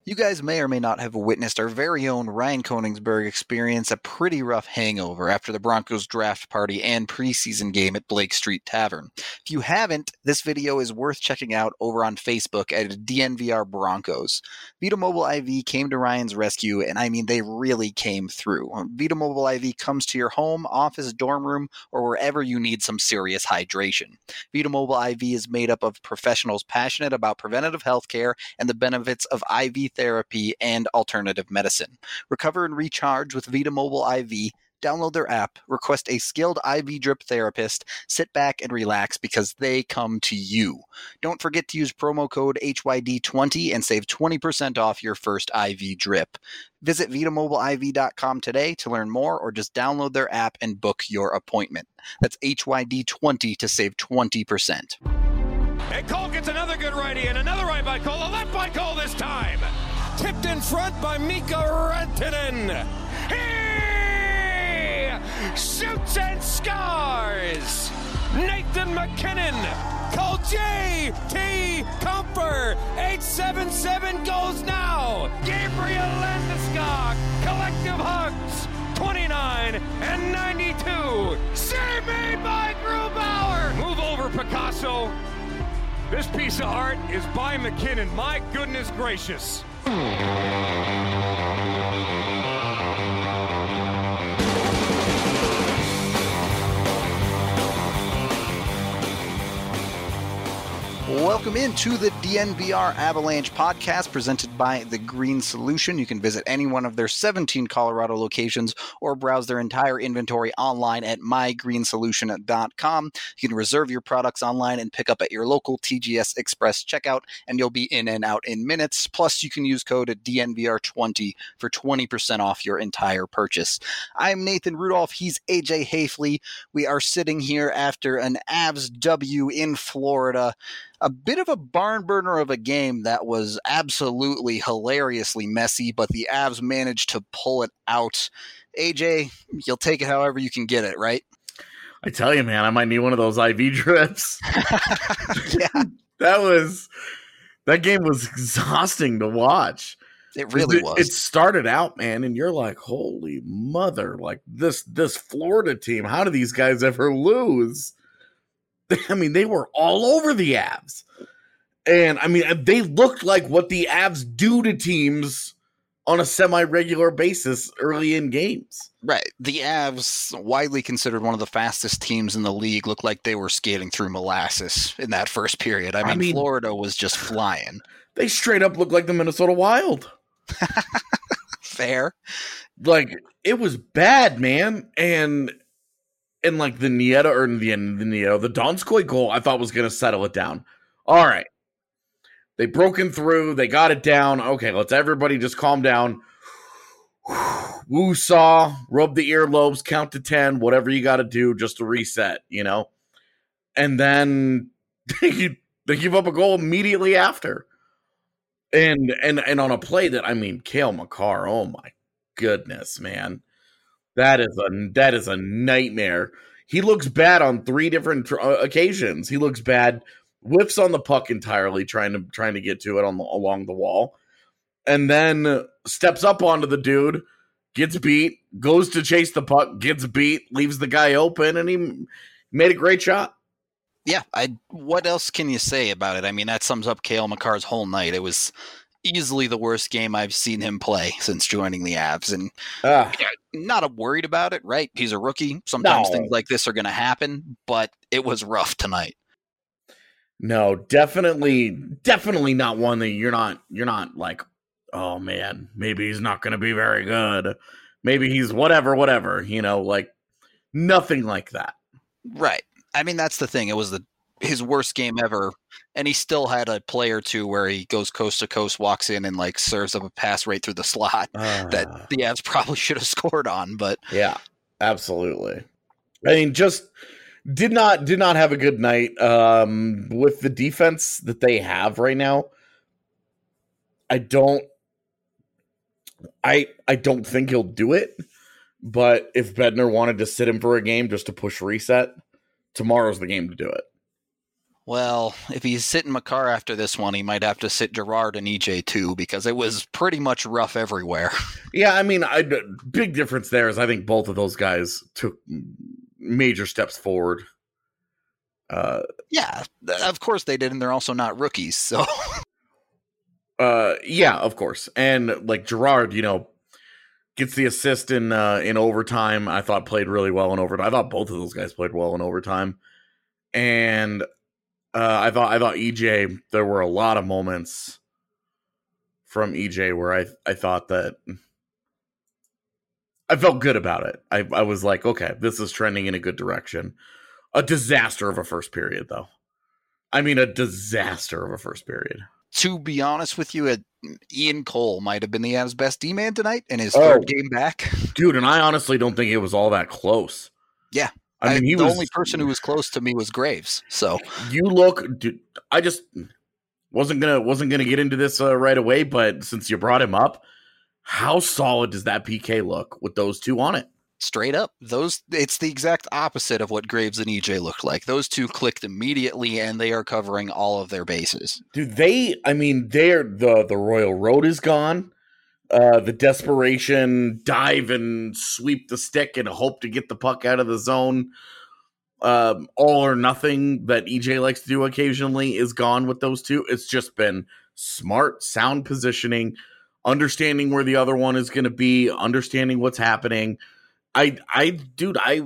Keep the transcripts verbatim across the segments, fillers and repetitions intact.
You guys may or may not have witnessed our very own Ryan Koenigsberg experience a pretty rough hangover after the Broncos draft party and preseason game at Blake Street Tavern. If you haven't, this video is worth checking out over on Facebook at D N V R Broncos. Vita Mobile I V came to Ryan's rescue, and I mean, they really came through. Vita Mobile I V comes to your home, office, dorm room, or wherever you need some serious hydration. Vita Mobile I V is made up of professionals passionate about preventative health care and the benefits of I V therapy and alternative medicine. Recover and recharge with Vita Mobile I V. Download their app, request a skilled I V drip therapist, sit back and relax because they come to you. Don't forget to use promo code H Y D twenty and save twenty percent off your first I V drip. Visit Vita Mobile I V dot com today to learn more, or just download their app and book your appointment. That's H Y D twenty to save twenty percent. And Cole gets another good righty, and another right by Cole, a left by Cole this time. Tipped in front by Mika Rantanen. He shoots and scores. Nathan MacKinnon. Cole J T Comfer. eight seven seven goes now. Gabriel Landeskog. Collective hugs. twenty-nine and ninety-two. Save made by Grubauer. Move over, Picasso. This piece of art is by McKinnon. My goodness gracious. Welcome into the D N V R Avalanche podcast presented by The Green Solution. You can visit any one of their seventeen Colorado locations or browse their entire inventory online at my green solution dot com. You can reserve your products online and pick up at your local T G S Express checkout, and you'll be in and out in minutes. Plus, you can use code D N V R twenty for twenty percent off your entire purchase. I'm Nathan Rudolph. He's A J Hafley. We are sitting here after an Avs W in Florida. A bit of a barn burner of a game that was absolutely hilariously messy, but the Avs managed to pull it out. A J, you'll take it however you can get it, right? I tell you, man, I might need one of those I V drips. Yeah. That was, that game was exhausting to watch. It really it, was. It started out, man, and you're like, holy mother, like this, this Florida team, how do these guys ever lose? I mean, they were all over the Avs. And, I mean, they looked like what the Avs do to teams on a semi-regular basis early in games. Right. The Avs, widely considered one of the fastest teams in the league, looked like they were skating through molasses in that first period. I mean, I mean Florida was just flying. They straight up looked like the Minnesota Wild. Fair. Like, it was bad, man. And... And like the Nieta or the, the Nieta, the Donskoy goal, I thought was going to settle it down. All right. They broken through. They got it down. Okay, let's everybody just calm down. Woo saw, rub the earlobes, count to ten, whatever you got to do just to reset, you know? And then they, they give up a goal immediately after. And, and, and on a play that, I mean, Cale Makar, oh my goodness, man. That is a that is a nightmare. He looks bad on three different tr- occasions. He looks bad, whiffs on the puck entirely, trying to trying to get to it on the, along the wall, and then steps up onto the dude, gets beat, goes to chase the puck, gets beat, leaves the guy open, and he made a great shot. Yeah, I. What else can you say about it? I mean, that sums up Cale Makar's whole night. It was easily the worst game I've seen him play since joining the Avs, and uh, yeah, not worried about it, right? He's a rookie. Sometimes no. things like this are going to happen, but it was rough tonight. No, definitely, definitely not one that you're not, you're not like, oh man, maybe he's not going to be very good. Maybe he's whatever, whatever, you know, like nothing like that. Right. I mean, that's the thing. It was the his worst game ever, and he still had a play or two where he goes coast to coast, walks in, and like serves up a pass right through the slot uh, that the Avs probably should have scored on. But yeah, absolutely. I mean, just did not did not have a good night um, with the defense that they have right now. I don't, I I don't think he'll do it. But if Bednar wanted to sit him for a game just to push reset, tomorrow's the game to do it. Well, if he's sitting Makar after this one, he might have to sit Girard and E J too, because it was pretty much rough everywhere. Yeah, I mean, I, big difference there is I think both of those guys took major steps forward. Uh, yeah, of course they did, and they're also not rookies, so... uh, yeah, of course. And, like, Girard, you know, gets the assist in uh, in overtime. I thought played really well in overtime. I thought both of those guys played well in overtime. And... Uh, I thought I thought E J, there were a lot of moments from E J where I I thought that I felt good about it. I, I was like, okay, this is trending in a good direction. A disaster of a first period, though. I mean, a disaster of a first period. To be honest with you, Ian Cole might have been the Avs' best D-man tonight in his oh, third game back. Dude, and I honestly don't think it was all that close. Yeah. I mean, I, he the was, only person who was close to me was Graves. So you look, dude, I just wasn't gonna wasn't gonna get into this uh, right away, but since you brought him up, how solid does that P K look with those two on it? Straight up, those it's the exact opposite of what Graves and E J looked like. Those two clicked immediately, and they are covering all of their bases. Dude, they, I mean, they're the the Royal Road is gone. Uh, the desperation dive and sweep the stick and hope to get the puck out of the zone, um, all or nothing that E J likes to do occasionally is gone with those two. It's just been smart, sound positioning, understanding where the other one is going to be, understanding what's happening. I, I, dude, I,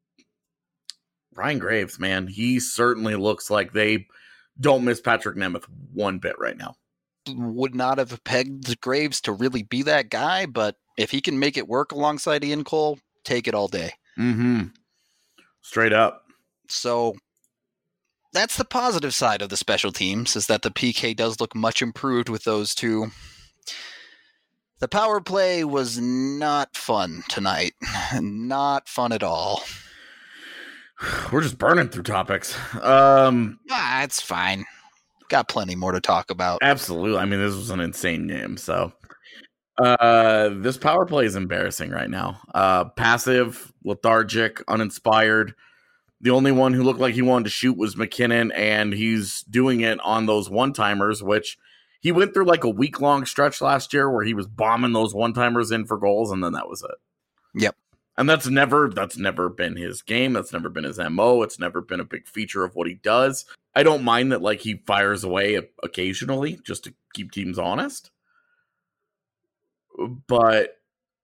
Ryan Graves, man, he certainly looks like they don't miss Patrick Nemeth one bit right now. Would not have pegged Graves to really be that guy, but if he can make it work alongside Ian Cole, take it all day. Mm-hmm. Straight up. So that's the positive side of the special teams, is that the P K does look much improved with those two. The power play was not fun tonight. Not fun at all. We're just burning through topics. Um, ah, it's fine. Got plenty more to talk about. Absolutely. I mean, this was an insane game. So uh, this power play is embarrassing right now. Uh, passive, lethargic, uninspired. The only one who looked like he wanted to shoot was MacKinnon, and he's doing it on those one-timers, which he went through like a week-long stretch last year where he was bombing those one-timers in for goals, and then that was it. Yep. And that's never that's never been his game. That's never been his M O. It's never been a big feature of what he does. I don't mind that, like, he fires away occasionally just to keep teams honest. But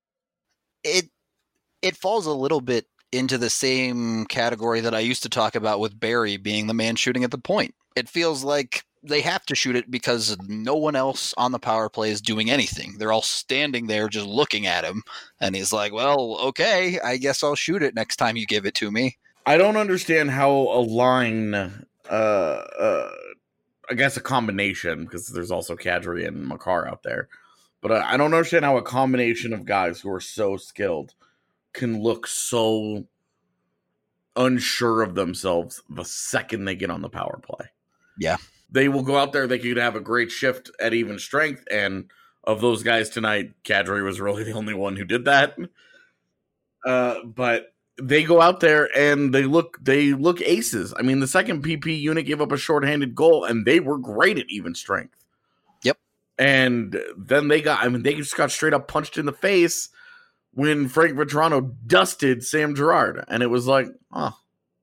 it it falls a little bit into the same category that I used to talk about with Barry being the man shooting at the point. It feels like they have to shoot it because no one else on the power play is doing anything. They're all standing there just looking at him. And he's like, well, okay, I guess I'll shoot it next time you give it to me. I don't understand how a line, uh, uh, I guess a combination, because there's also Kadri and Makar out there. But uh, I don't understand how a combination of guys who are so skilled can look so unsure of themselves the second they get on the power play. Yeah. They will go out there, they could have a great shift at even strength, and of those guys tonight, Kadri was really the only one who did that. Uh, but they go out there and they look they look aces. I mean, the second P P unit gave up a shorthanded goal, and they were great at even strength. Yep. And then they got, I mean, they just got straight up punched in the face when Frank Vatrano dusted Sam Girard. And it was like, oh.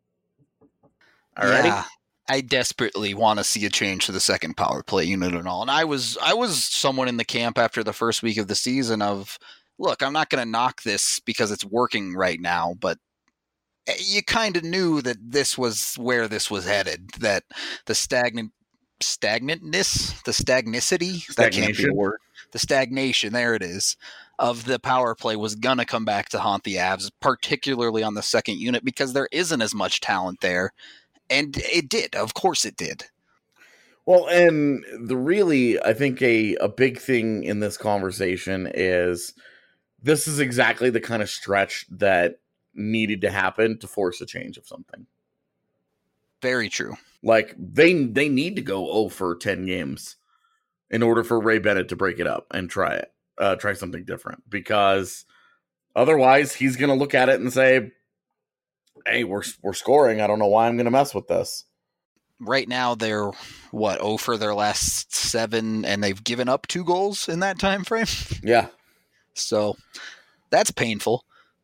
Alrighty. Yeah. I desperately want to see a change to the second power play unit and all. And I was I was someone in the camp after the first week of the season of, look, I'm not going to knock this because it's working right now, but you kind of knew that this was where this was headed, that the stagnant stagnantness, the stagnicity, that can't be a word. The stagnation, there it is, of the power play was going to come back to haunt the Avs, particularly on the second unit, because there isn't as much talent there. And it did. Of course it did. Well, and the really, I think a, a big thing in this conversation is this is exactly the kind of stretch that needed to happen to force a change of something. Very true. Like, they they need to go oh for ten games in order for Ray Bennett to break it up and try it. Uh, try something different. Because otherwise, he's going to look at it and say, hey, we're we're scoring. I don't know why I'm going to mess with this. right now they're, what, oh for their last seven, and they've given up two goals in that time frame? Yeah. So that's painful.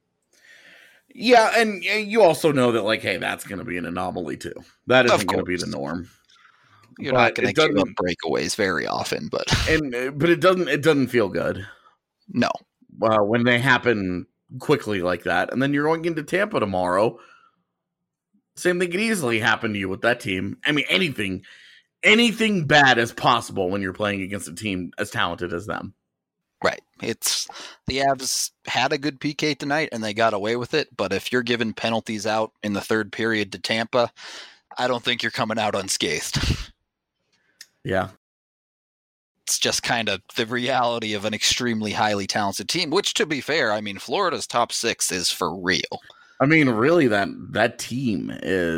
Yeah, and you also know that, like, hey, that's going to be an anomaly, too. That isn't going to be the norm. You're but not going to give up breakaways very often, but and but it doesn't it doesn't feel good. No, uh, when they happen quickly like that, and then you're going into Tampa tomorrow. Same thing could easily happen to you with that team. I mean, anything, anything bad is possible when you're playing against a team as talented as them. Right. It's the Avs had a good P K tonight and they got away with it. But if you're giving penalties out in the third period to Tampa, I don't think you're coming out unscathed. Yeah. It's just kind of the reality of an extremely highly talented team, which, to be fair, I mean, Florida's top six is for real. I mean, really, that that team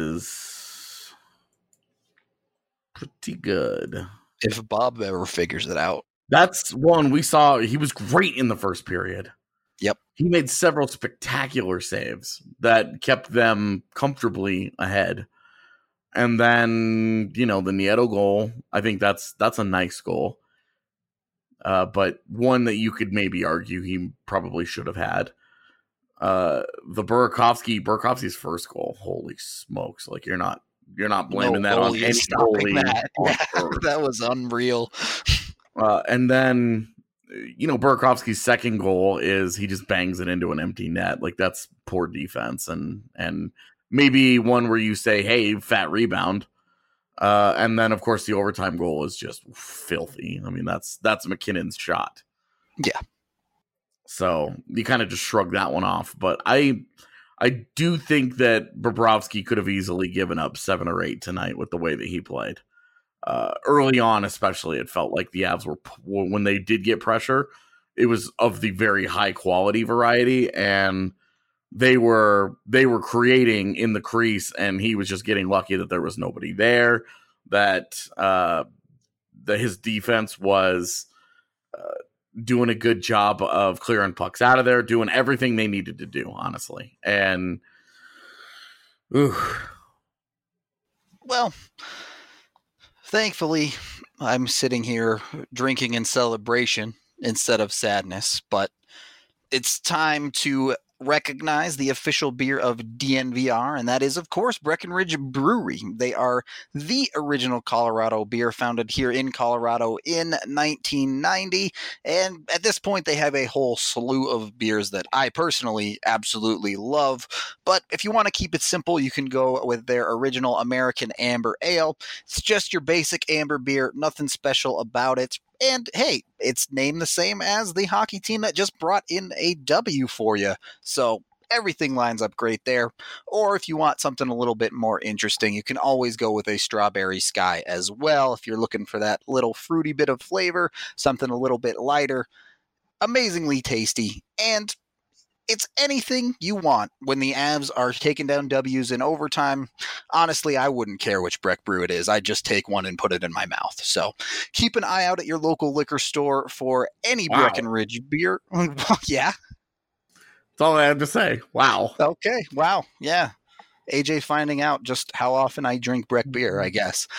is pretty good. If Bob ever figures it out. That's one we saw. He was great in the first period. Yep. He made several spectacular saves that kept them comfortably ahead. And then, you know, the Nieto goal, I think that's that's a nice goal. Uh, but one that you could maybe argue he probably should have had. Uh, the Burakovsky, Burakovsky's first goal, holy smokes. Like, you're not you're not blaming no that on any goalie. That. On Yeah, that was unreal. Uh, and then, you know, Burakovsky's second goal is he just bangs it into an empty net. Like, that's poor defense. And and maybe one where you say, hey, fat rebound. Uh, and then, of course, the overtime goal is just filthy. I mean, that's that's McKinnon's shot. Yeah. So you kind of just shrug that one off. But I I do think that Bobrovsky could have easily given up seven or eight tonight with the way that he played. Uh, early on, especially, it felt like the Avs were, when they did get pressure, it was of the very high quality variety, and they were they were creating in the crease, and he was just getting lucky that there was nobody there. That uh, that his defense was uh, doing a good job of clearing pucks out of there, doing everything they needed to do, honestly. And ooh. Well, thankfully, I'm sitting here drinking in celebration instead of sadness, but it's time to recognize the official beer of D N V R, and that is, of course, Breckenridge Brewery. They are the original Colorado beer, founded here in Colorado in nineteen ninety, and at this point they have a whole slew of beers that I personally absolutely love. But if you want to keep it simple, you can go with their original American Amber Ale. It's just your basic amber beer, nothing special about it. And hey, it's named the same as the hockey team that just brought in a W for you. So everything lines up great there. Or if you want something a little bit more interesting, you can always go with a Strawberry Sky as well. If you're looking for that little fruity bit of flavor, something a little bit lighter, amazingly tasty. And it's anything you want when the Avs are taking down W's in overtime. Honestly, I wouldn't care which Breck Brew it is. I'd just take one and put it in my mouth. So keep an eye out at your local liquor store for any wow. Breckenridge beer. Yeah. That's all I have to say. Wow. Okay. Wow. Yeah. A J finding out just how often I drink Breck beer, I guess.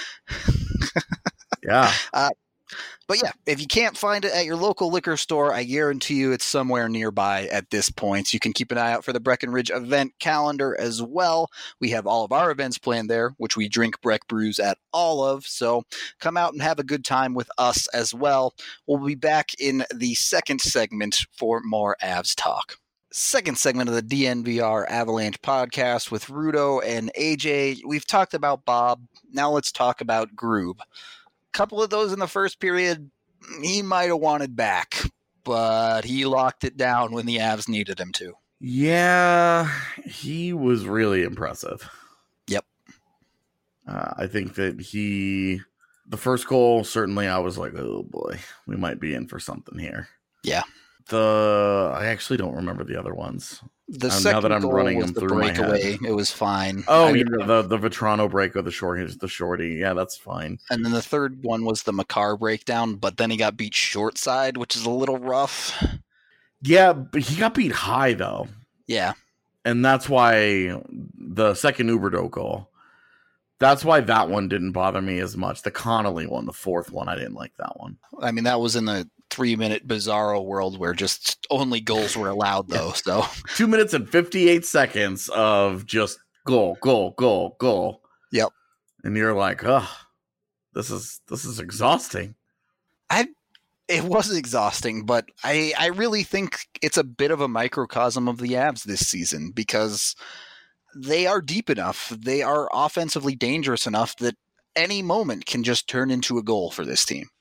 Yeah. Uh, But yeah, if you can't find it at your local liquor store, I guarantee you it's somewhere nearby at this point. So you can keep an eye out for the Breckenridge event calendar as well. We have all of our events planned there, which we drink Breck brews at all of. So come out and have a good time with us as well. We'll be back in the second segment for more Avs talk. Second segment of the D N V R Avalanche podcast with Rudo and A J. We've talked about Bob. Now let's talk about Groob. Couple of those in the first period he might have wanted back, but he locked it down when the Avs needed him to. Yeah, he was really impressive. Yep. Uh, I think that he, the first goal, certainly I was like, oh boy, we might be in for something here. Yeah. The, I actually don't remember the other ones. The um, second now that I'm goal running was them the through my breakaway. head. It was fine. Oh, I mean, yeah, the the Vetrano break or the short, the shorty. Yeah, that's fine. And then the third one was the Makar breakdown, but then he got beat short side, which is a little rough. Yeah, but he got beat high though. Yeah, and that's why the second Huberdeau goal, That's why that one didn't bother me as much. The Connolly one, the fourth one, I didn't like that one. I mean, that was in the three-minute Bizarro world where just only goals were allowed, though. So two minutes and fifty-eight seconds of just goal, goal, goal, goal. Yep. And you're like, oh, this is this is exhausting. I. It was exhausting, but I, I really think it's a bit of a microcosm of the Avs this season because they are deep enough. They are offensively dangerous enough that any moment can just turn into a goal for this team.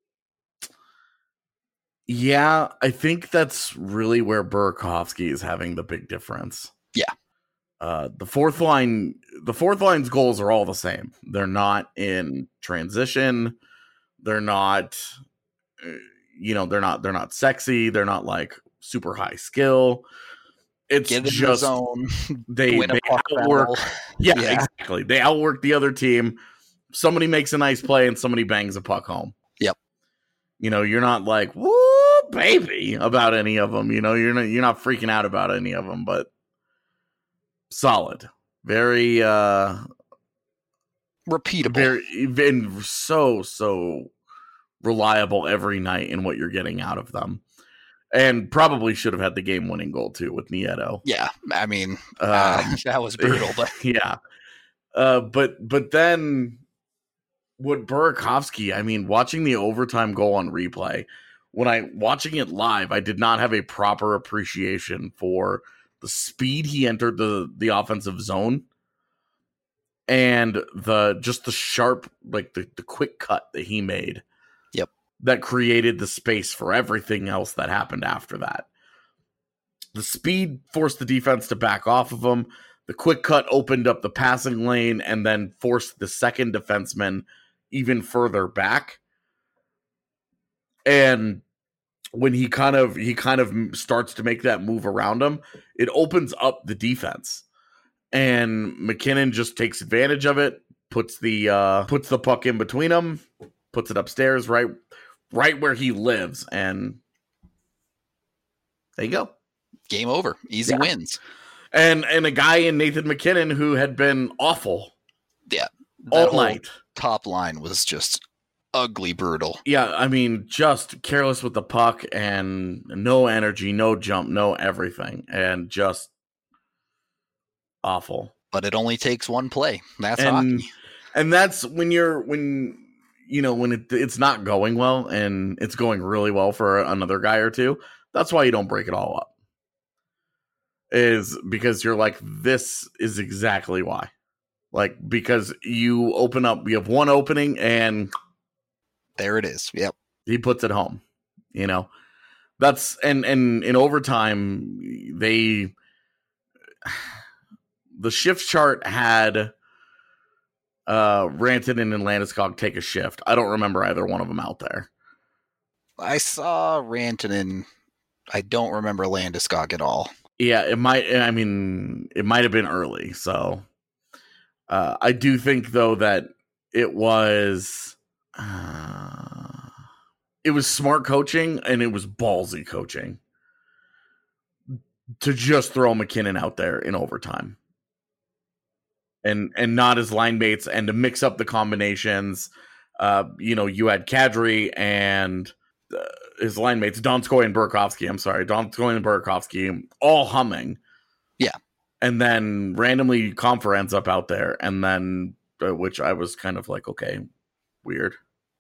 Yeah, I think that's really where Burakovsky is having the big difference. Yeah. Uh, the fourth line, the fourth line's goals are all the same. They're not in transition. They're not... You know, they're not they're not sexy. They're not like super high skill. It's Get in just the zone, they, win a they puck outwork. battle. Yeah, Yeah. exactly. They outwork the other team. Somebody makes a nice play and somebody bangs a puck home. Yep. You know, you're not like woo baby about any of them. You know, you're not you're not freaking out about any of them. But solid, very uh, repeatable, very been so so. reliable every night in what you're getting out of them. And probably should have had the game-winning goal, too, with Nieto. Yeah, I mean, Um, uh, that was brutal. But yeah. Uh, but but then what Burakovsky, I mean, watching the overtime goal on replay, when I watching it live, I did not have a proper appreciation for the speed he entered the, the offensive zone and the just the sharp, like the, the quick cut that he made. Yep. That created the space for everything else that happened after that. The speed forced the defense to back off of him. The quick cut opened up the passing lane and then forced the second defenseman even further back. And when he kind of he kind of starts to make that move around him, it opens up the defense. And McKinnon just takes advantage of it, puts the uh, puts the puck in between them, puts it upstairs right right where he lives, and there you go. Game over. Easy Yeah. wins. And and a guy in Nathan McKinnon who had been awful Yeah. all night. Top line was just ugly brutal. Yeah, I mean, just careless with the puck and no energy, no jump, no everything, and just awful. But it only takes one play. That's and, hockey. And that's when you're when you know when it, it's not going well and it's going really well for another guy or two. That's why you don't break it all up. Is because you're like, this is exactly why. Like, because you open up, you have one opening and there it is. Yep. he puts it home. You know, that's and and in overtime they the shift chart had uh Rantanen and Landeskog take a shift. I don't remember either one of them out there. I saw Rantanen. I don't remember Landeskog at all. Yeah, it might. I mean, it might have been early. So uh, I do think, though, that it was uh, it was smart coaching and it was ballsy coaching to just throw McKinnon out there in overtime and and not as line mates and to mix up the combinations. Uh, you know, you had Kadri and uh, his line mates, Donskoy and Burakovsky. I'm sorry, Donskoy and Burakovsky, all humming. Yeah. And then randomly Comfer ends up out there, and then, uh, which I was kind of like, okay, weird.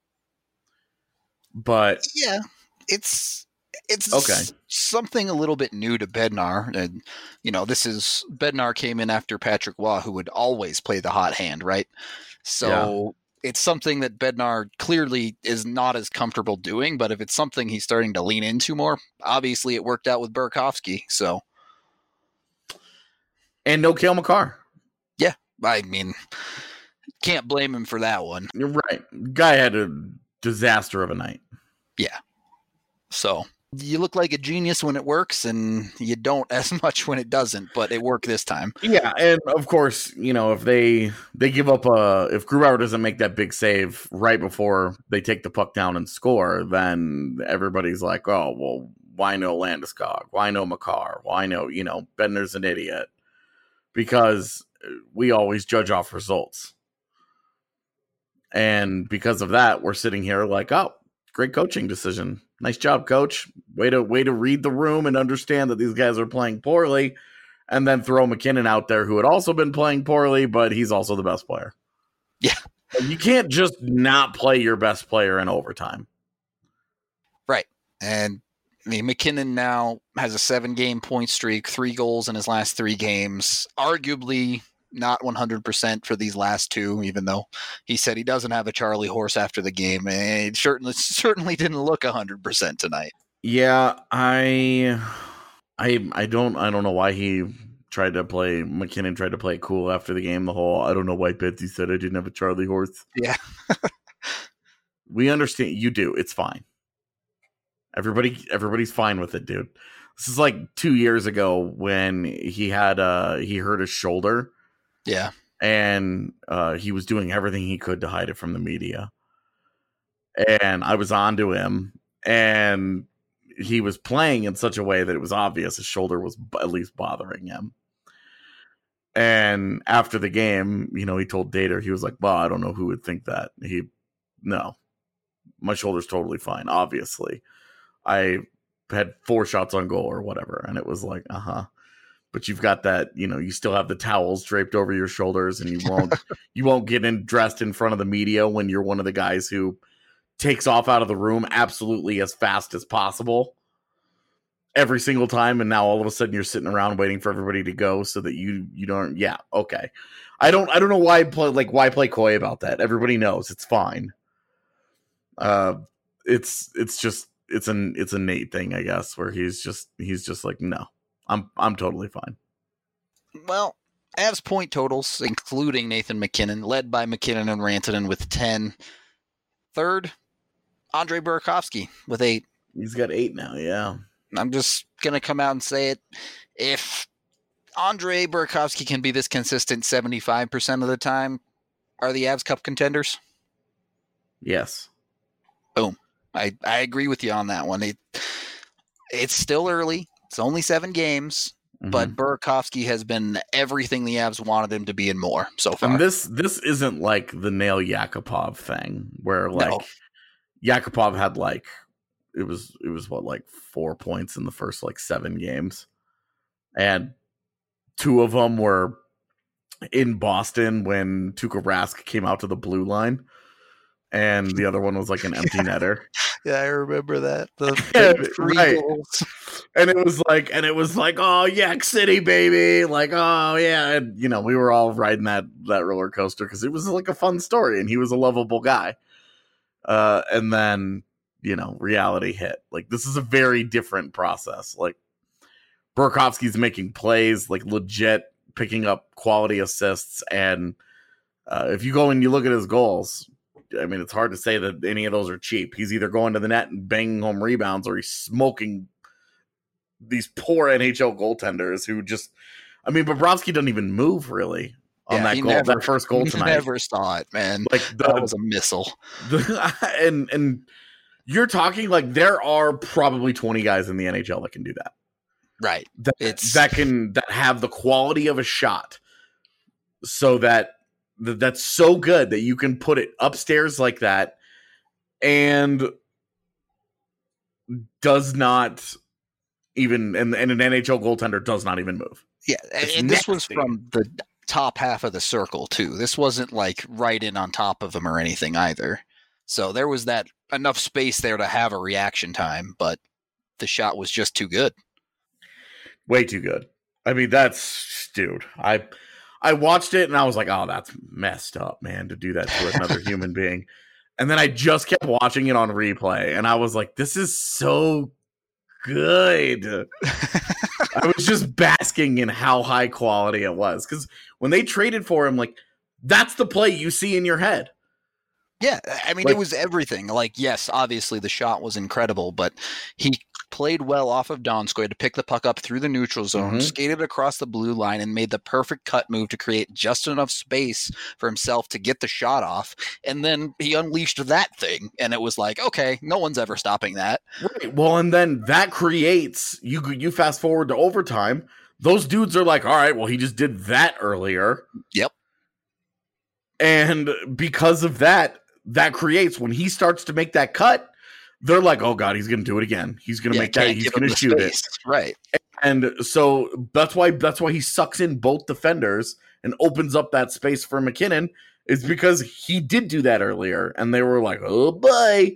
But yeah, it's it's okay. something a little bit new to Bednar. And, you know, this is Bednar came in after Patrick Waugh, who would always play the hot hand, right? So yeah. It's something that Bednar clearly is not as comfortable doing, but if it's something he's starting to lean into more, obviously it worked out with Burakovsky. So, and no Cale Makar. Yeah, I mean, can't blame him for that one. You're right. Guy had a disaster of a night. Yeah. So you look like a genius when it works, and you don't as much when it doesn't, but it worked this time. Yeah, and of course, you know, if they they give up a if Grubauer doesn't make that big save right before they take the puck down and score, then everybody's like, oh, well, why no Landeskog? Why no Makar? Why no, you know, Bednar's an idiot. Because we always judge off results. And because of that, we're sitting here like, oh, great coaching decision. Nice job, coach. Way to way to read the room and understand that these guys are playing poorly, and then throw MacKinnon out there who had also been playing poorly, but he's also the best player. Yeah. You can't just not play your best player in overtime. Right. And I mean, MacKinnon now has a seven-game point streak, three goals in his last three games. Arguably not one hundred percent for these last two, even though he said he doesn't have a Charlie horse after the game. And it certainly, certainly didn't look one hundred percent tonight. Yeah, I, I, I don't, I don't know why he tried to play. MacKinnon tried to play it cool after the game. The whole, I don't know why Betsy said I didn't have a Charlie horse. Yeah, we understand. You do. It's fine. Everybody, everybody's fine with it, dude. This is like two years ago when he had, uh, he hurt his shoulder. Yeah. And uh, he was doing everything he could to hide it from the media. And I was on to him, and he was playing in such a way that it was obvious his shoulder was b- at least bothering him. And after the game, you know, he told Dater, he was like, well, I don't know who would think that. He, no, my shoulder's totally fine. Obviously, I had four shots on goal or whatever. And it was like, uh-huh. But you've got that, you know, you still have the towels draped over your shoulders, and you won't, you won't get in dressed in front of the media when you're one of the guys who takes off out of the room absolutely as fast as possible every single time. And now all of a sudden you're sitting around waiting for everybody to go so that you, you don't, yeah. Okay. I don't, I don't know why play, like why play coy about that. Everybody knows it's fine. Uh, it's, it's just, it's an, it's a Nate thing, I guess, where he's just, he's just like, no, I'm, I'm totally fine. Well, Avs point totals, including Nathan MacKinnon, led by MacKinnon and Rantanen with ten. Third, Andre Burakovsky with eight. He's got eight now, yeah. I'm just going to come out and say it. If Andre Burakovsky can be this consistent seventy-five percent of the time, are the Avs Cup contenders? Yes. Boom. I, I agree with you on that one. It, it's still early. It's only seven games. Mm-hmm. But Burakovsky has been everything the Avs wanted him to be and more so far. And this this isn't like the Nail Yakupov thing where like no. Yakupov had like it was it was what like four points in the first like seven games, and two of them were in Boston when Tuukka Rask came out to the blue line, and the other one was like an empty netter. Yeah, I remember that. The three right. goals. And it was like, and it was like, oh, Yak City, baby. Like, oh, yeah. And, you know, we were all riding that, that roller coaster because it was like a fun story and he was a lovable guy. Uh, and then, you know, reality hit. Like, this is a very different process. Like, Burakovsky's making plays, like, legit picking up quality assists. And uh, if you go and you look at his goals, I mean, it's hard to say that any of those are cheap. He's either going to the net and banging home rebounds, or he's smoking these poor N H L goaltenders who just, I mean, Bobrovsky doesn't even move really on yeah, that goal, never, that first goal tonight. Never saw it, man. Like the, that was a missile. The, and and you're talking like there are probably twenty guys in the N H L that can do that. Right. That, it's that can that have the quality of a shot, so that. That's so good that you can put it upstairs like that and does not even, and, and an N H L goaltender does not even move. Yeah, and, and this was from the top half of the circle, too. This wasn't like right in on top of him or anything either. So there was that enough space there to have a reaction time, but the shot was just too good. Way too good. I mean, that's, dude, I... I watched it and I was like, oh, that's messed up, man, to do that to another human being. And then I just kept watching it on replay and I was like, this is so good. I was just basking in how high quality it was. Because when they traded for him, like, that's the play you see in your head. Yeah, I mean, like, it was everything. Like, yes, obviously the shot was incredible, but he played well off of Donskoy to pick the puck up through the neutral zone, mm-hmm. skated across the blue line, and made the perfect cut move to create just enough space for himself to get the shot off. And then he unleashed that thing, and it was like, okay, no one's ever stopping that. Right. Well, and then that creates, you you fast forward to overtime, those dudes are like, all right, well, he just did that earlier. Yep. And because of that, that creates when he starts to make that cut, they're like, oh God, he's going to do it again. He's going to Yeah, make that. can't He's give going him to the shoot space. it. Right. And so that's why that's why he sucks in both defenders and opens up that space for McKinnon, is because he did do that earlier. And they were like, oh boy.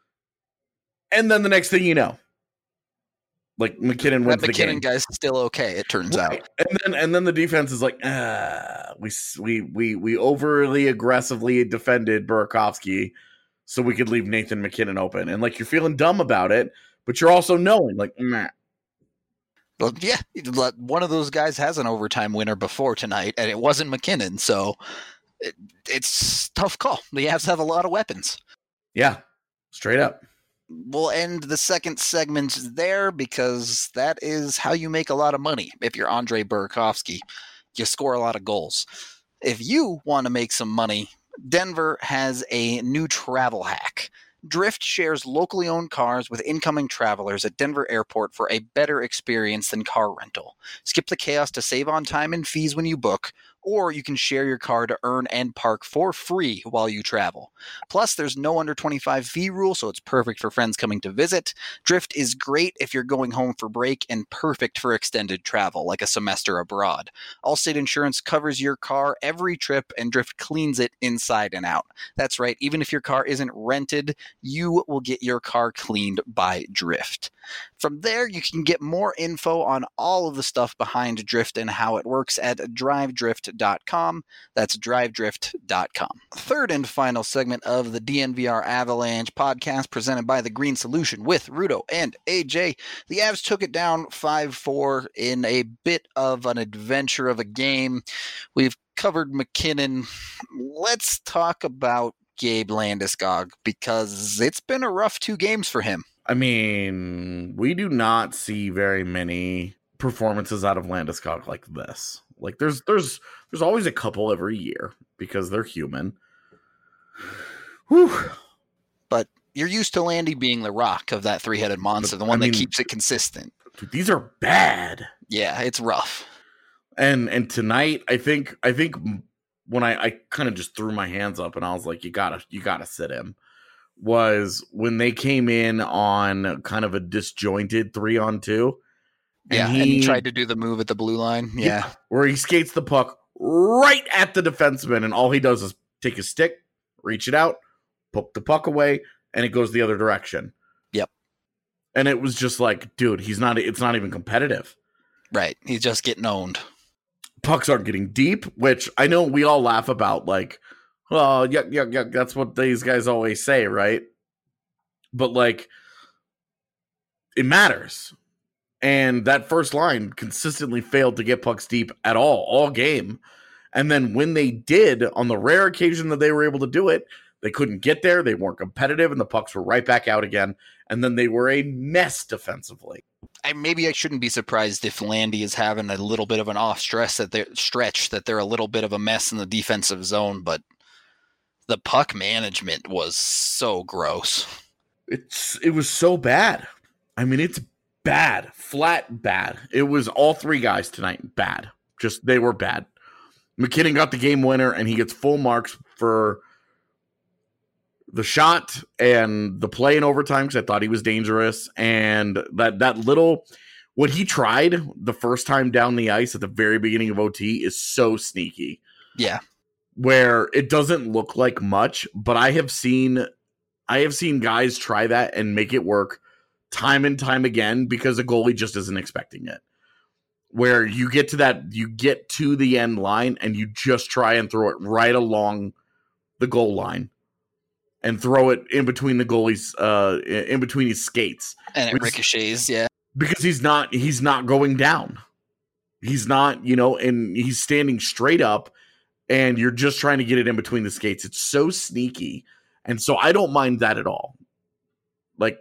And then the next thing you know, like McKinnon wins That the game. McKinnon guy's still okay, it turns Right. out. And then and then the defense is like, ah, we we we we overly aggressively defended Burakovsky so we could leave Nathan McKinnon open. And like, you're feeling dumb about it, but you're also knowing like, nah. Well, yeah, one of those guys has an overtime winner before tonight, and it wasn't McKinnon, so it, it's a tough call. The Avs have a lot of weapons. Yeah, straight up. We'll end the second segment there because that is how you make a lot of money. If you're Andre Burakovsky, you score a lot of goals. If you want to make some money, Denver has a new travel hack. Drift shares locally owned cars with incoming travelers at Denver Airport for a better experience than car rental. Skip the chaos to save on time and fees when you book, or you can share your car to earn and park for free while you travel. Plus, there's no under twenty-five fee rule, so it's perfect for friends coming to visit. Drift is great if you're going home for break and perfect for extended travel, like a semester abroad. Allstate Insurance covers your car every trip, and Drift cleans it inside and out. That's right, even if your car isn't rented, you will get your car cleaned by Drift. From there, you can get more info on all of the stuff behind Drift and how it works at drive drift dot com. That's drive drift dot com. Third and final segment of the D N V R Avalanche podcast presented by The Green Solution with Rudo and A J. The Avs took it down five four in a bit of an adventure of a game. We've covered McKinnon. Let's talk about Gabe Landeskog, because it's been a rough two games for him. I mean, we do not see very many performances out of Landeskog like this. Like there's there's there's always a couple every year because they're human. Whew. But you're used to Landy being the rock of that three-headed monster, the one I mean, that keeps it consistent. Dude, these are bad. Yeah, it's rough. And and tonight, I think I think when I, I kind of just threw my hands up and I was like, you gotta you gotta sit him, was when they came in on kind of a disjointed three on two. And yeah, he, and he tried to do the move at the blue line. Yeah. yeah. Where he skates the puck right at the defenseman, and all he does is take his stick, reach it out, poke the puck away, and it goes the other direction. Yep. And it was just like, dude, he's not it's not even competitive. Right. He's just getting owned. Pucks aren't getting deep, which I know we all laugh about, like, well, yeah, yeah, yeah, that's what these guys always say, right? But like, it matters. And that first line consistently failed to get pucks deep at all, all game. And then when they did, on the rare occasion that they were able to do it, they couldn't get there. They weren't competitive, and the pucks were right back out again. And then they were a mess defensively. I, maybe I shouldn't be surprised if Landy is having a little bit of an off stress that they're stretch that they're a little bit of a mess in the defensive zone, but the puck management was so gross. It's it was so bad. I mean, it's bad, flat bad. It was all three guys tonight bad. Just they were bad. McKinnon got the game winner, and he gets full marks for the shot and the play in overtime because I thought he was dangerous. And that that little, what he tried the first time down the ice at the very beginning of O T is so sneaky. Yeah. Where it doesn't look like much, but I have seen, I have seen guys try that and make it work time and time again because the goalie just isn't expecting it. Where you get to that, you get to the end line and you just try and throw it right along the goal line. And throw it in between the goalie's, uh, in between his skates, and it ricochets. Yeah, because he's not, he's not going down. He's not, you know, and he's standing straight up, and you're just trying to get it in between the skates. It's so sneaky, and so I don't mind that at all. Like,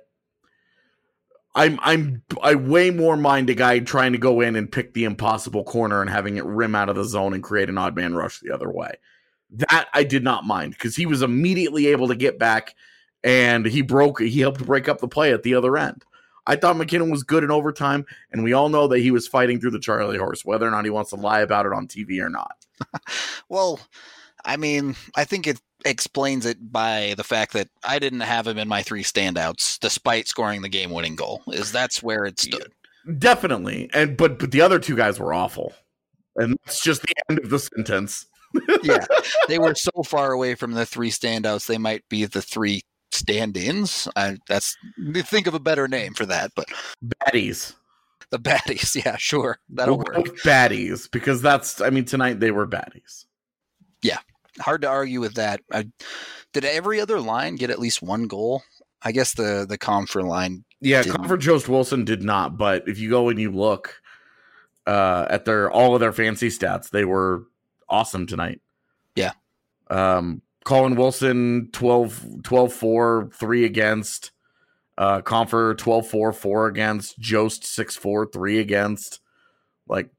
I'm, I'm, I way more mind a guy trying to go in and pick the impossible corner and having it rim out of the zone and create an odd man rush the other way. That I did not mind because he was immediately able to get back and he broke, he helped break up the play at the other end. I thought McKinnon was good in overtime, and we all know that he was fighting through the Charlie horse, whether or not he wants to lie about it on T V or not. Well, I mean, I think it explains it by the fact that I didn't have him in my three standouts, despite scoring the game-winning goal. Is that's where it stood. Definitely, and but but the other two guys were awful, and that's just the end of the sentence. Yeah, they were so far away from the three standouts, they might be the three stand-ins. I, that's think of a better name for that, but baddies. The baddies, yeah, sure, that'll we'll work. Baddies, because that's, I mean, tonight they were baddies. Yeah, hard to argue with that. I, did every other line get at least one goal? I guess the the Comfer line. Yeah, didn't. Comfer Jost Wilson did not, but if you go and you look uh, at their all of their fancy stats, they were awesome tonight. Yeah. Um, Colin Wilson, twelve four, three against. Uh, Comfer, twelve four, four against. Jost, six four, three against. Like,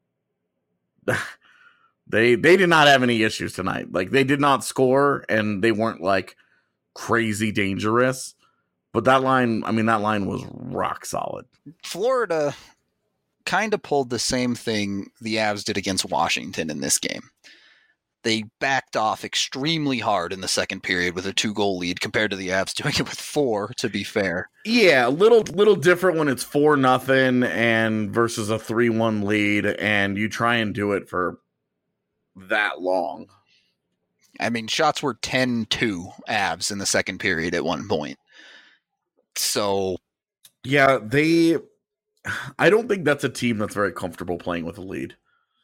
they they did not have any issues tonight. Like, they did not score, and they weren't, like, crazy dangerous. But that line, I mean, that line was rock solid. Florida kind of pulled the same thing the Avs did against Washington in this game. They backed off extremely hard in the second period with a two-goal lead compared to the Avs doing it with four, to be fair. Yeah, a little little different when it's four nothing and versus a three one lead, and you try and do it for that long. I mean, shots were ten two Avs in the second period at one point. So, yeah, they I don't think that's a team that's very comfortable playing with a lead.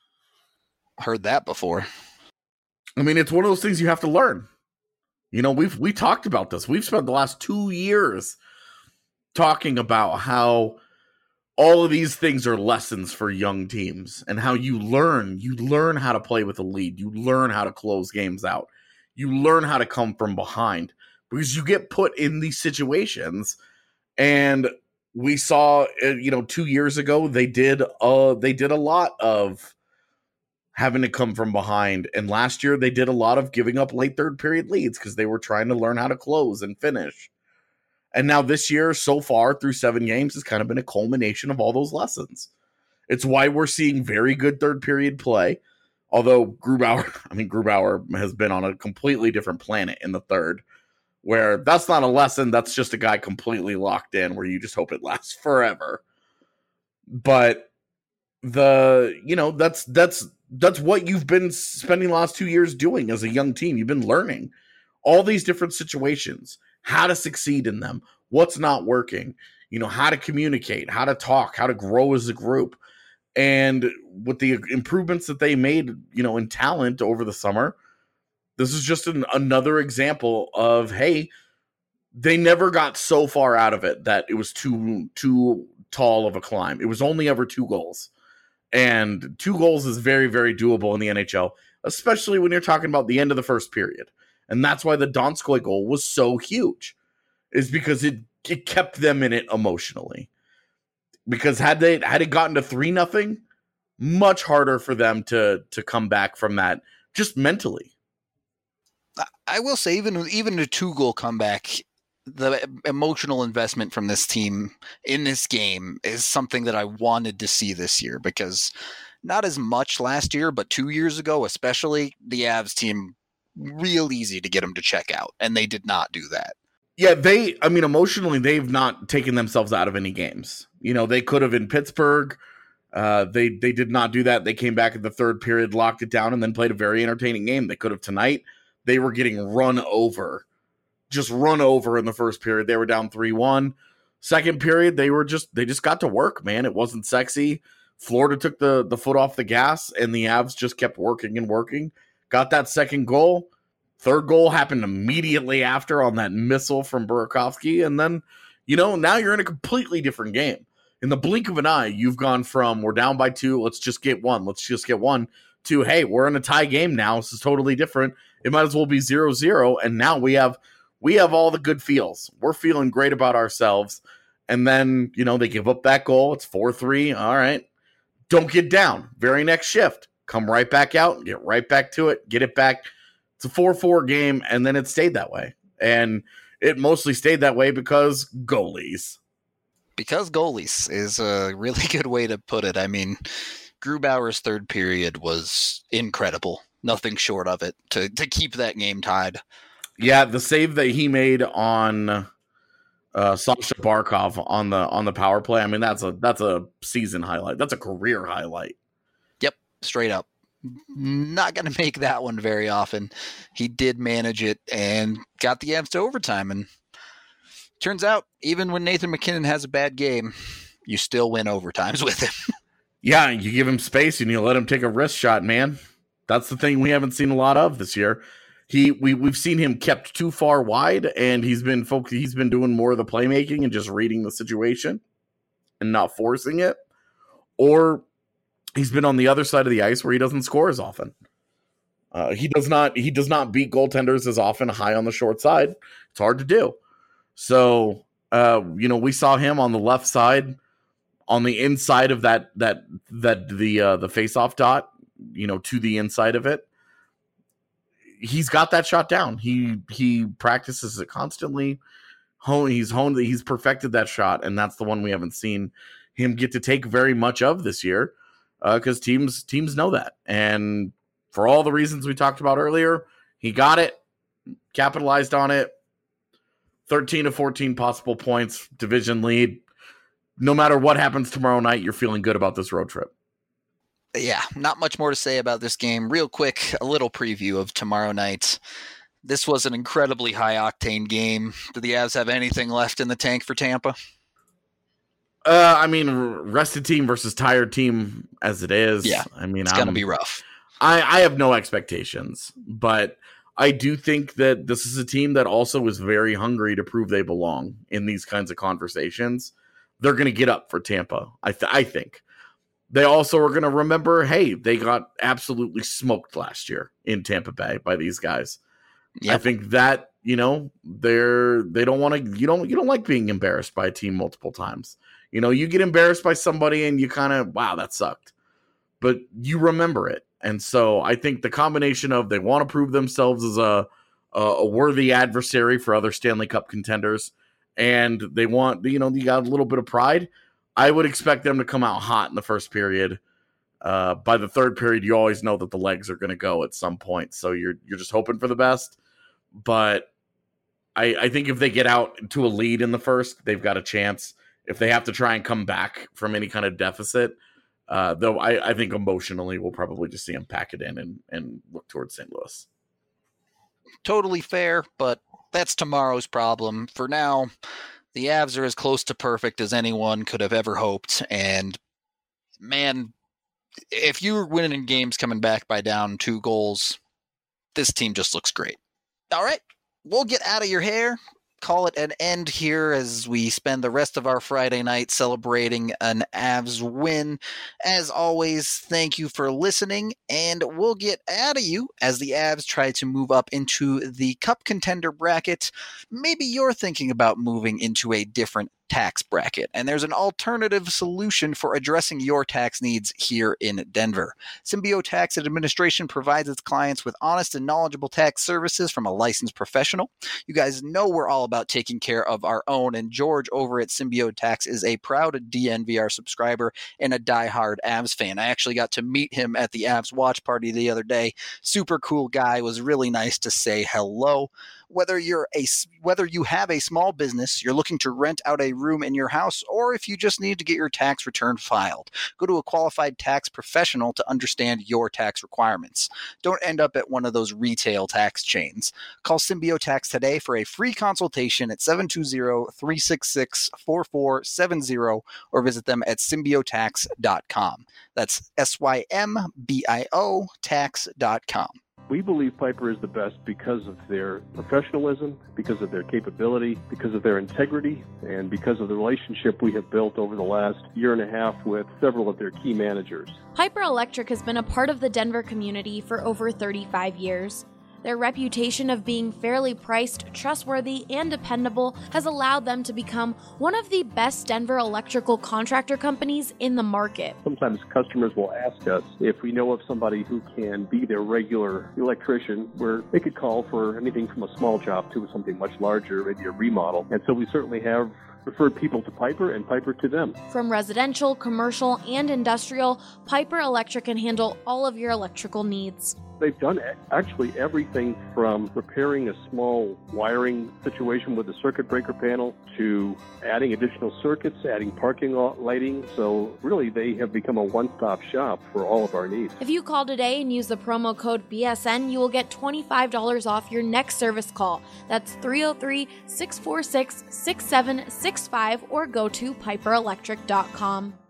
Heard that before. I mean, it's one of those things you have to learn. You know, we've we talked about this. We've spent the last two years talking about how all of these things are lessons for young teams and how you learn. You learn how to play with a lead. You learn how to close games out. You learn how to come from behind because you get put in these situations. And we saw, you know, two years ago they did uh they did a lot of having to come from behind. And last year they did a lot of giving up late third period leads because they were trying to learn how to close and finish. And now this year, so far through seven games, has kind of been a culmination of all those lessons. It's why we're seeing very good third period play. Although Grubauer, I mean, Grubauer has been on a completely different planet in the third, where that's not a lesson. That's just a guy completely locked in where you just hope it lasts forever. But the, you know, that's, that's, That's what you've been spending the last two years doing as a young team. You've been learning all these different situations, how to succeed in them, what's not working, you know, how to communicate, how to talk, how to grow as a group. And with the improvements that they made, you know, in talent over the summer, this is just an, another example of, hey, they never got so far out of it that it was too, too tall of a climb. It was only ever two goals. And two goals is very, very doable in the N H L, especially when you're talking about the end of the first period. And that's why the Donskoy goal was so huge, is because it, it kept them in it emotionally. Because had they had it gotten to three nothing, much harder for them to to come back from that, just mentally. I will say, even even a two goal comeback, the emotional investment from this team in this game is something that I wanted to see this year, because not as much last year, but two years ago, especially, the Avs team, real easy to get them to check out. And they did not do that. Yeah, they, I mean, emotionally, they've not taken themselves out of any games. You know, they could have in Pittsburgh. Uh, they, they did not do that. They came back in the third period, locked it down, and then played a very entertaining game. They could have tonight. They were getting run over. Just run over in the first period. They were down three one. Second period, they were just they just got to work, man. It wasn't sexy. Florida took the, the foot off the gas, and the Avs just kept working and working. Got that second goal. Third goal happened immediately after on that missile from Burakovsky. And then, you know, now you're in a completely different game. In the blink of an eye, you've gone from we're down by two, let's just get one, let's just get one, to, hey, we're in a tie game now. This is totally different. It might as well be zero zero, and now we have we have all the good feels. We're feeling great about ourselves. And then, you know, they give up that goal. It's four three. All right. Don't get down. Very next shift. Come right back out, get right back to it, get it back. It's a four four game, and then it stayed that way. And it mostly stayed that way because goalies. Because goalies is a really good way to put it. I mean, Grubauer's third period was incredible. nothing short of it to, to keep that game tied. Yeah, the save that he made on uh, Sasha Barkov on the on the power play. I mean, that's a that's a season highlight. That's a career highlight. Yep, straight up. Not going to make that one very often. He did manage it and got the Avs to overtime. And turns out, even when Nathan MacKinnon has a bad game, you still win overtimes with him. Yeah, you give him space and you let him take a wrist shot, man. That's the thing we haven't seen a lot of this year. He we we've seen him kept too far wide, and he's been folk, he's been doing more of the playmaking and just reading the situation and not forcing it. Or he's been on the other side of the ice where he doesn't score as often. Uh, he does not he does not beat goaltenders as often high on the short side. It's hard to do. So uh, you know, we saw him on the left side, on the inside of that that that the uh, the faceoff dot, you know, to the inside of it. He's got that shot down. He he practices it constantly. Hone, he's honed, he's perfected that shot, and that's the one we haven't seen him get to take very much of this year, because uh, teams teams know that. And for all the reasons we talked about earlier, he got it, capitalized on it. thirteen to fourteen possible points, division lead. No matter what happens tomorrow night, you're feeling good about this road trip. Yeah, not much more to say about this game. Real quick, a little preview of tomorrow night. This was an incredibly high-octane game. Do the Avs have anything left in the tank for Tampa? Uh, I mean, rested team versus tired team as it is. Yeah, I mean, it's going to be rough. I, I have no expectations, but I do think that this is a team that also is very hungry to prove they belong in these kinds of conversations. They're going to get up for Tampa, I, th- I think. They also are going to remember, hey, they got absolutely smoked last year in Tampa Bay by these guys. Yep. I think that, you know, they're they don't want to you don't you don't like being embarrassed by a team multiple times. You know, you get embarrassed by somebody and you kind of, wow, that sucked. But you remember it. And so I think the combination of they want to prove themselves as a a, a worthy adversary for other Stanley Cup contenders, and they want, you know, you got a little bit of pride. I would expect them to come out hot in the first period. Uh, by the third period, you always know that the legs are going to go at some point. So you're you're just hoping for the best. But I, I think if they get out to a lead in the first, they've got a chance. If they have to try and come back from any kind of deficit, uh, though I, I think emotionally we'll probably just see them pack it in and, and look towards Saint Louis. Totally fair, but that's tomorrow's problem. For now, the Avs are as close to perfect as anyone could have ever hoped. And, man, if you're winning games coming back by down two goals, this team just looks great. All right, we'll get out of your hair. Call it an end here as we spend the rest of our Friday night celebrating an Avs win. As always, thank you for listening, and we'll get out of you as the Avs try to move up into the Cup contender bracket. Maybe you're thinking about moving into a different tax bracket, and there's an alternative solution for addressing your tax needs here in Denver. Symbio Tax Administration provides its clients with honest and knowledgeable tax services from a licensed professional. You guys know we're all about taking care of our own, and George over at Symbio Tax is a proud D N V R subscriber and a diehard Avs fan. I actually got to meet him at the Avs watch party the other day. Super cool guy. Was really nice to say hello. Whether you're a whether you have a small business, you're looking to rent out a room in your house, or if you just need to get your tax return filed, go to a qualified tax professional to understand your tax requirements. Don't end up at one of those retail tax chains. Call Symbio Tax today for a free consultation at seven two zero, three six six, four four seven zero or visit them at symbio tax dot com. That's S Y M B I O tax dot com. We believe Piper is the best because of their professionalism, because of their capability, because of their integrity, and because of the relationship we have built over the last year and a half with several of their key managers. Piper Electric has been a part of the Denver community for over thirty-five years. Their reputation of being fairly priced, trustworthy, and dependable has allowed them to become one of the best Denver electrical contractor companies in the market. Sometimes customers will ask us if we know of somebody who can be their regular electrician, where they could call for anything from a small job to something much larger, maybe a remodel. And so we certainly have referred people to Piper and Piper to them. From residential, commercial, and industrial, Piper Electric can handle all of your electrical needs. They've done actually everything from repairing a small wiring situation with a circuit breaker panel to adding additional circuits, adding parking lot lighting. So really, they have become a one-stop shop for all of our needs. If you call today and use the promo code B S N, you will get twenty-five dollars off your next service call. That's three oh three, six four six, six seven six five or go to piper electric dot com.